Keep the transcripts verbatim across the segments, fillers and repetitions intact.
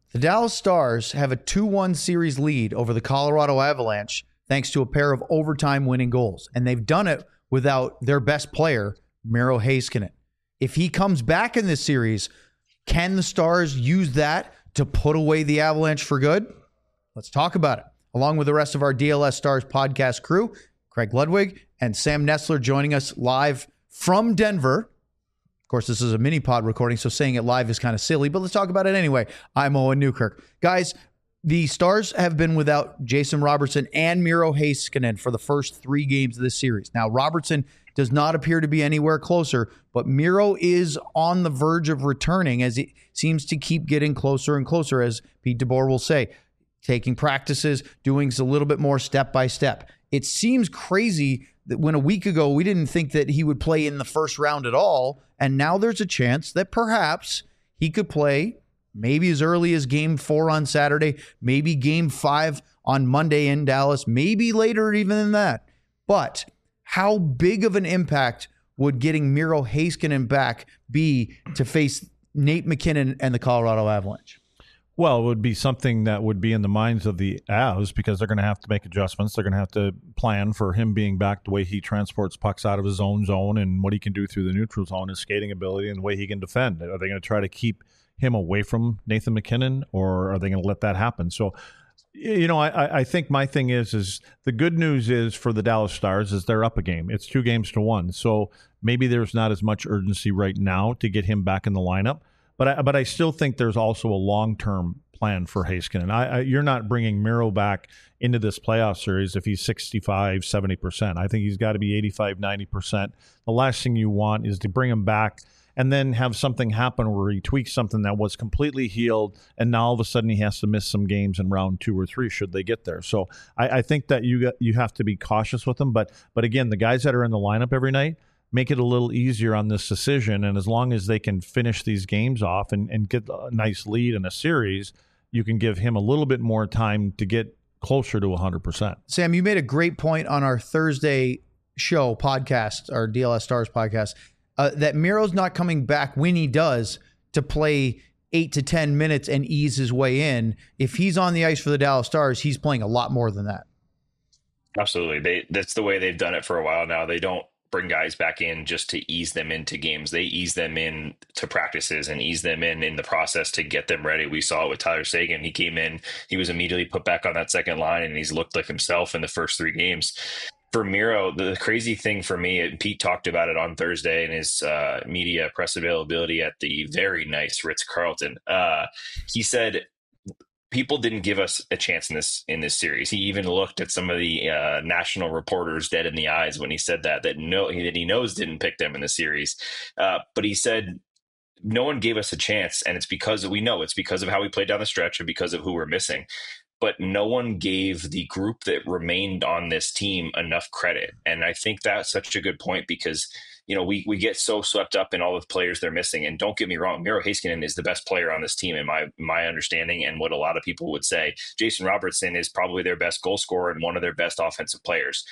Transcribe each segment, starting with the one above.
The Dallas Stars have a two one series lead over the Colorado Avalanche thanks to a pair of overtime winning goals. And they've done it without their best player, Miro Heiskanen. If he comes back in this series, can the Stars use that to put away the Avalanche for good? Let's talk about it. Along with the rest of our D L S Stars podcast crew, Craig Ludwig and Sam Nestler joining us live from Denver. Of course, this is a mini pod recording, so saying it live is kind of silly, but let's talk about it anyway. I'm Owen Newkirk. Guys, the Stars have been without Jason Robertson and Miro Heiskanen for the first three games of this series. Now, Robertson does not appear to be anywhere closer, but Miro is on the verge of returning as he seems to keep getting closer and closer, as Pete DeBoer will say, taking practices, doing a little bit more step by step. It seems crazy that when a week ago we didn't think that he would play in the first round at all, and now there's a chance that perhaps he could play maybe as early as game four on Saturday, maybe game five on Monday in Dallas, maybe later even than that. But how big of an impact would getting Miro Heiskanen back be to face Nate MacKinnon and the Colorado Avalanche? Well, it would be something that would be in the minds of the Avs because they're going to have to make adjustments. They're going to have to plan for him being back, the way he transports pucks out of his own zone and what he can do through the neutral zone, his skating ability, and the way he can defend. Are they going to try to keep him away from Nathan MacKinnon, or are they going to let that happen? So, you know, I, I think my thing is, is the good news is for the Dallas Stars is they're up a game. It's two games to one. So maybe there's not as much urgency right now to get him back in the lineup. But I, but I still think there's also a long-term plan for Heiskanen. I, I, you're not bringing Miro back into this playoff series if he's sixty-five, seventy percent. I think he's got to be eighty-five, ninety percent. The last thing you want is to bring him back and then have something happen where he tweaks something that was completely healed, and now all of a sudden he has to miss some games in round two or three should they get there. So I, I think that you got, you have to be cautious with him. But but again, the guys that are in the lineup every night, make it a little easier on this decision. And as long as they can finish these games off and, and get a nice lead in a series, you can give him a little bit more time to get closer to one hundred percent. Sam, you made a great point on our Thursday show podcast, our D L S Stars podcast, uh, that Miro's not coming back when he does to play eight to ten minutes and ease his way in. If he's on the ice for the Dallas Stars, he's playing a lot more than that. Absolutely. They, that's the way they've done it for a while now. They don't bring guys back in just to ease them into games. They ease them in to practices and ease them in in the process to get them ready. We saw it with Tyler Seguin. He came in, he was immediately put back on that second line, and he's looked like himself in the first three games. For Miro, the crazy thing for me, and Pete talked about it on Thursday in his uh, media press availability at the very nice Ritz-Carlton. Uh, he said, people didn't give us a chance in this in this series. He even looked at some of the uh, national reporters dead in the eyes when he said that that no that he knows didn't pick them in the series. Uh, but he said no one gave us a chance, and it's because we know it's because of how we played down the stretch and because of who we're missing. But no one gave the group that remained on this team enough credit, and I think that's such a good point because, you know, we we get so swept up in all the players they're missing. And don't get me wrong, Miro Heiskanen is the best player on this team in my my understanding and what a lot of people would say. Jason Robertson is probably their best goal scorer and one of their best offensive players.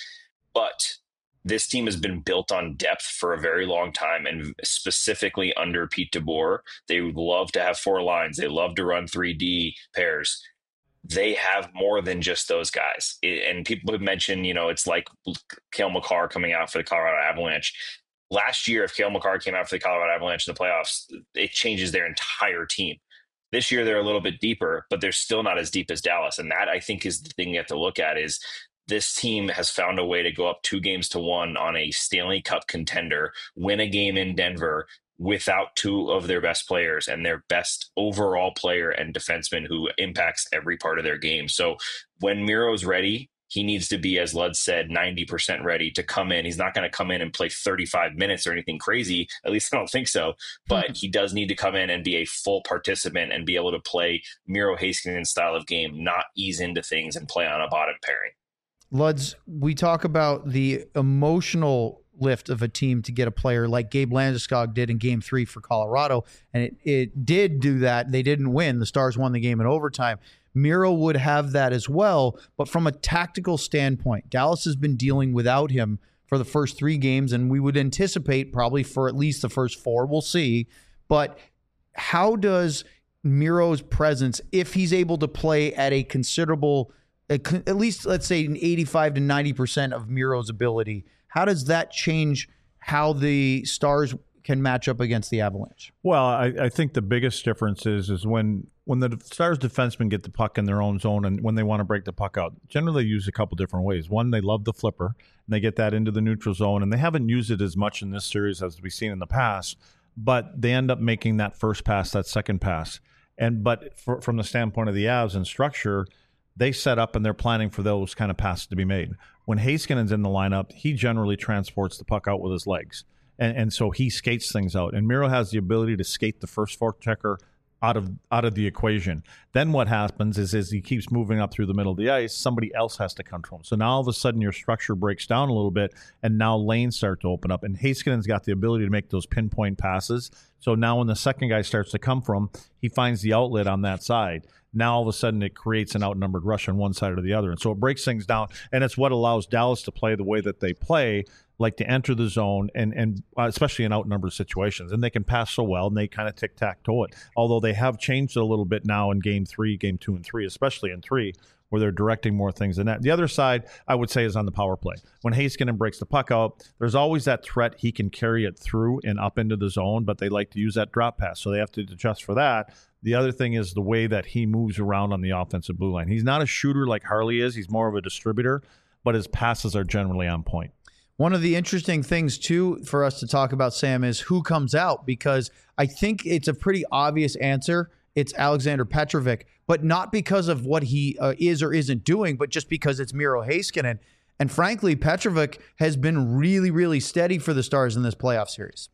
But this team has been built on depth for a very long time, and specifically under Pete DeBoer. They love to have four lines. They love to run three D pairs. They have more than just those guys. And people have mentioned, you know, it's like Cale Makar coming out for the Colorado Avalanche. Last year, if Cale Makar came out for the Colorado Avalanche in the playoffs, it changes their entire team. This year, they're a little bit deeper, but they're still not as deep as Dallas. And that, I think, is the thing you have to look at is this team has found a way to go up two games to one on a Stanley Cup contender, win a game in Denver without two of their best players and their best overall player and defenseman who impacts every part of their game. So when Miro's ready, he needs to be, as Lud said, ninety percent ready to come in. He's not going to come in and play thirty-five minutes or anything crazy. At least I don't think so. But mm-hmm. he does need to come in and be a full participant and be able to play Miro Heiskanen style of game, not ease into things and play on a bottom pairing. Luds, we talk about the emotional lift of a team to get a player like Gabe Landeskog did in game three for Colorado. And it, it did do that. They didn't win. The Stars won the game in overtime. Miro would have that as well. But from a tactical standpoint, Dallas has been dealing without him for the first three games, and we would anticipate probably for at least the first four. We'll see. But how does Miro's presence, if he's able to play at a considerable, at least let's say an eighty-five to ninety percent of Miro's ability, how does that change how the Stars can match up against the Avalanche? Well, I, I think the biggest difference is is when when the Stars defensemen get the puck in their own zone and when they want to break the puck out, generally they use a couple different ways. One, they love the flipper, and they get that into the neutral zone, and they haven't used it as much in this series as we've seen in the past, but they end up making that first pass, that second pass. And but for, from the standpoint of the Avs and structure, they set up and they're planning for those kind of passes to be made. When Heiskanen's in the lineup, he generally transports the puck out with his legs. And, and so he skates things out. And Miro has the ability to skate the first forechecker out of out of the equation. Then what happens is, is he keeps moving up through the middle of the ice, somebody else has to come to him. So now all of a sudden your structure breaks down a little bit, and now lanes start to open up. And Heiskanen's got the ability to make those pinpoint passes. So now when the second guy starts to come from, he finds the outlet on that side. Now all of a sudden it creates an outnumbered rush on one side or the other. And so it breaks things down, and it's what allows Dallas to play the way that they play, like to enter the zone, and and uh, especially in outnumbered situations. And they can pass so well, and they kind of tic-tac-toe it. Although they have changed it a little bit now in game three, game two, and three, especially in three, where they're directing more things than that. The other side, I would say, is on the power play. When Heiskanen breaks the puck out, there's always that threat he can carry it through and up into the zone, but they like to use that drop pass, so they have to adjust for that. The other thing is the way that he moves around on the offensive blue line. He's not a shooter like Harley is. He's more of a distributor, but his passes are generally on point. One of the interesting things, too, for us to talk about, Sam, is who comes out, because I think it's a pretty obvious answer. It's Alexander Petrovic, but not because of what he uh, is or isn't doing, but just because it's Miro Heiskanen. And frankly, Petrovic has been really, really steady for the Stars in this playoff series.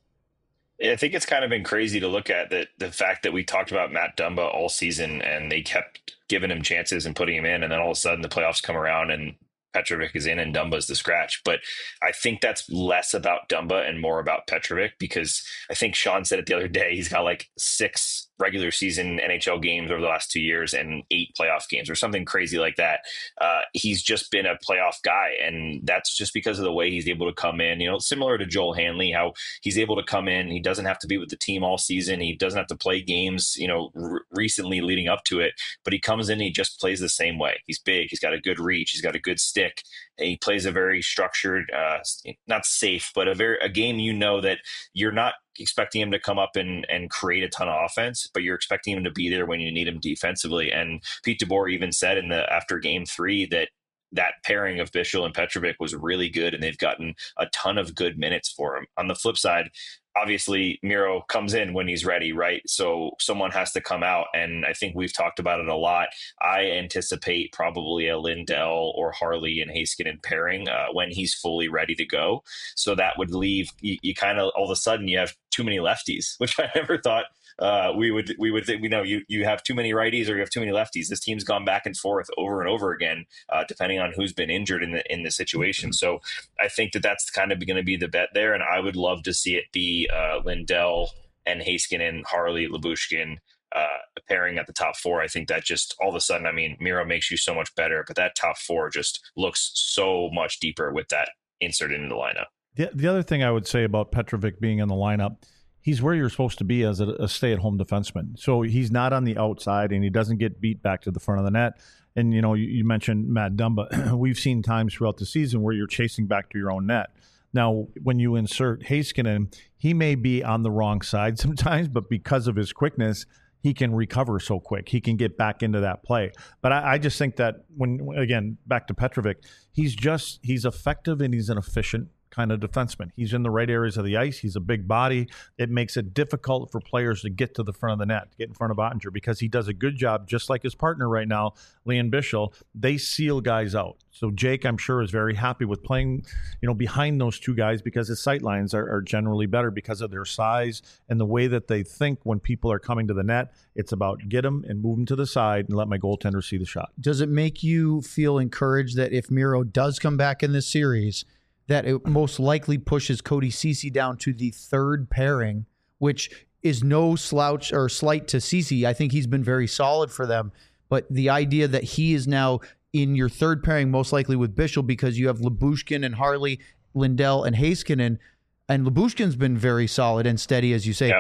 I think it's kind of been crazy to look at that the fact that we talked about Matt Dumba all season, and they kept giving him chances and putting him in, and then all of a sudden the playoffs come around and Petrovic is in and Dumba's the scratch. But I think that's less about Dumba and more about Petrovic, because I think Sean said it the other day, he's got like six regular season N H L games over the last two years and eight playoff games or something crazy like that. Uh, he's just been a playoff guy, and that's just because of the way he's able to come in, you know, similar to Joel Hanley, how he's able to come in. He doesn't have to be with the team all season. He doesn't have to play games, you know, r- recently leading up to it, but he comes in and he just plays the same way. He's big. He's got a good reach. He's got a good stick. And he plays a very structured, uh, not safe, but a very, a game, you know, that you're not expecting him to come up and, and create a ton of offense, but you're expecting him to be there when you need him defensively. And Pete DeBoer even said in the after game three that that pairing of Bichsel and Petrovic was really good, and they've gotten a ton of good minutes for him. On the flip side, obviously Miro comes in when he's ready, right? So someone has to come out, and I think we've talked about it a lot. I anticipate probably a Lindell or Harley and Heiskanen pairing uh, when he's fully ready to go. So that would leave you, you kind of all of a sudden you have too many lefties, which I never thought uh, we would we would think. We know you you have too many righties or you have too many lefties. This team's gone back and forth over and over again, uh, depending on who's been injured in the in the situation. So I think that that's kind of going to be the bet there, and I would love to see it be uh, Lindell and Heiskanen, Harley, Lyubushkin uh, pairing at the top four. I think that just all of a sudden, I mean, Miro makes you so much better, but that top four just looks so much deeper with that insert into the lineup. The, the other thing I would say about Petrovic being in the lineup, he's where you're supposed to be as a, a stay-at-home defenseman. So he's not on the outside, and he doesn't get beat back to the front of the net. And, you know, you, you mentioned Matt Dumba. We've seen times throughout the season where you're chasing back to your own net. Now, when you insert Heiskanen, he may be on the wrong side sometimes, but because of his quickness, he can recover so quick. He can get back into that play. But I, I just think that when, again, back to Petrovic, he's just, he's effective and he's an efficient kind of defenseman. He's in the right areas of the ice. He's a big body. It makes it difficult for players to get to the front of the net, to get in front of Ottinger, because he does a good job, just like his partner right now, Lian Bichsel. They seal guys out. So Jake, I'm sure, is very happy with playing, you know, behind those two guys, because his sight lines are, are generally better because of their size and the way that they think when people are coming to the net. It's about get them and move them to the side and let my goaltender see the shot. Does it make you feel encouraged that if Miro does come back in this series, that it most likely pushes Cody Ceci down to the third pairing, which is no slouch or slight to Ceci? I think he's been very solid for them. But the idea that he is now in your third pairing, most likely with Bichsel, because you have Lyubushkin and Harley, Lindell and Heiskanen, and Lyubushkin's been very solid and steady, as you say. Yep.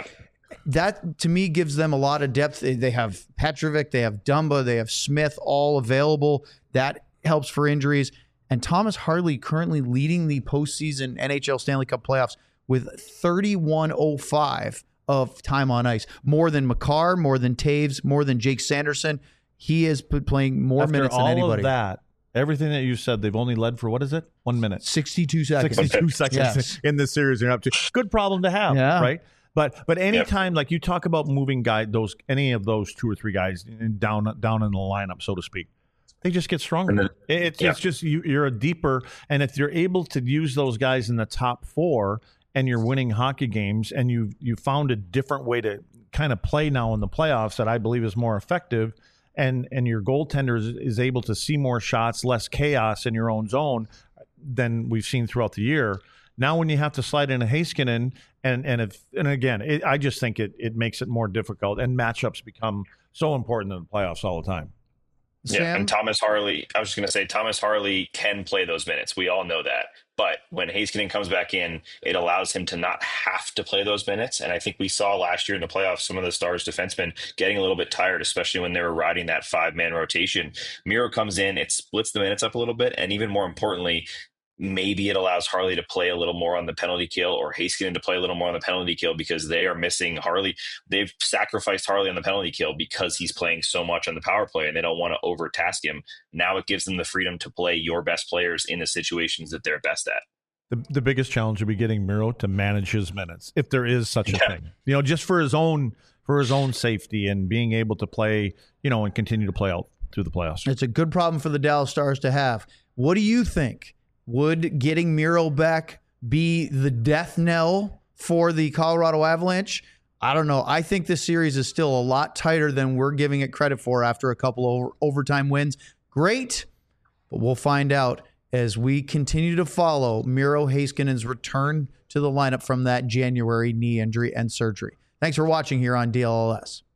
that to me gives them a lot of depth. They have Petrovic, they have Dumba, they have Smith all available. That helps for injuries. And Thomas Harley currently leading the postseason N H L Stanley Cup playoffs with thirty-one oh five of time on ice. More than Makar, more than Taves, more than Jake Sanderson. He is playing more After minutes than all anybody. Of that, everything that you said, they've only led for, what is it? One minute. sixty-two seconds. sixty-two seconds Yes. in this series. You're up to. Good problem to have, Yeah. right? But but anytime, yep. like you talk about moving guy, those any of those two or three guys down down in the lineup, so to speak, they just get stronger. Then, it's, yeah. it's just you, you're a deeper, and if you're able to use those guys in the top four, and you're winning hockey games, and you you found a different way to kind of play now in the playoffs that I believe is more effective, and and your goaltender is, is able to see more shots, less chaos in your own zone than we've seen throughout the year. Now, when you have to slide in a Heiskanen, and and if and again, it, I just think it it makes it more difficult, and matchups become so important in the playoffs all the time. Yeah, Sam? and Thomas Harley, I was just going to say, Thomas Harley can play those minutes. We all know that. But when Heiskanen comes back in, it allows him to not have to play those minutes. And I think we saw last year in the playoffs, some of the Stars defensemen getting a little bit tired, especially when they were riding that five-man rotation. Miro comes in, it splits the minutes up a little bit. And even more importantly, maybe it allows Harley to play a little more on the penalty kill, or Heiskanen to play a little more on the penalty kill, because they are missing Harley. They've sacrificed Harley on the penalty kill because he's playing so much on the power play, and they don't want to overtask him. Now it gives them the freedom to play your best players in the situations that they're best at. The, the biggest challenge would be getting Miro to manage his minutes, if there is such a yeah. thing. You know, just for his own for his own safety and being able to play, you know, and continue to play out through the playoffs. It's a good problem for the Dallas Stars to have. What do you think? Would getting Miro back be the death knell for the Colorado Avalanche? I don't know. I think this series is still a lot tighter than we're giving it credit for after a couple of over- overtime wins. Great, but we'll find out as we continue to follow Miro Heiskanen's return to the lineup from that January knee injury and surgery. Thanks for watching here on D L L S.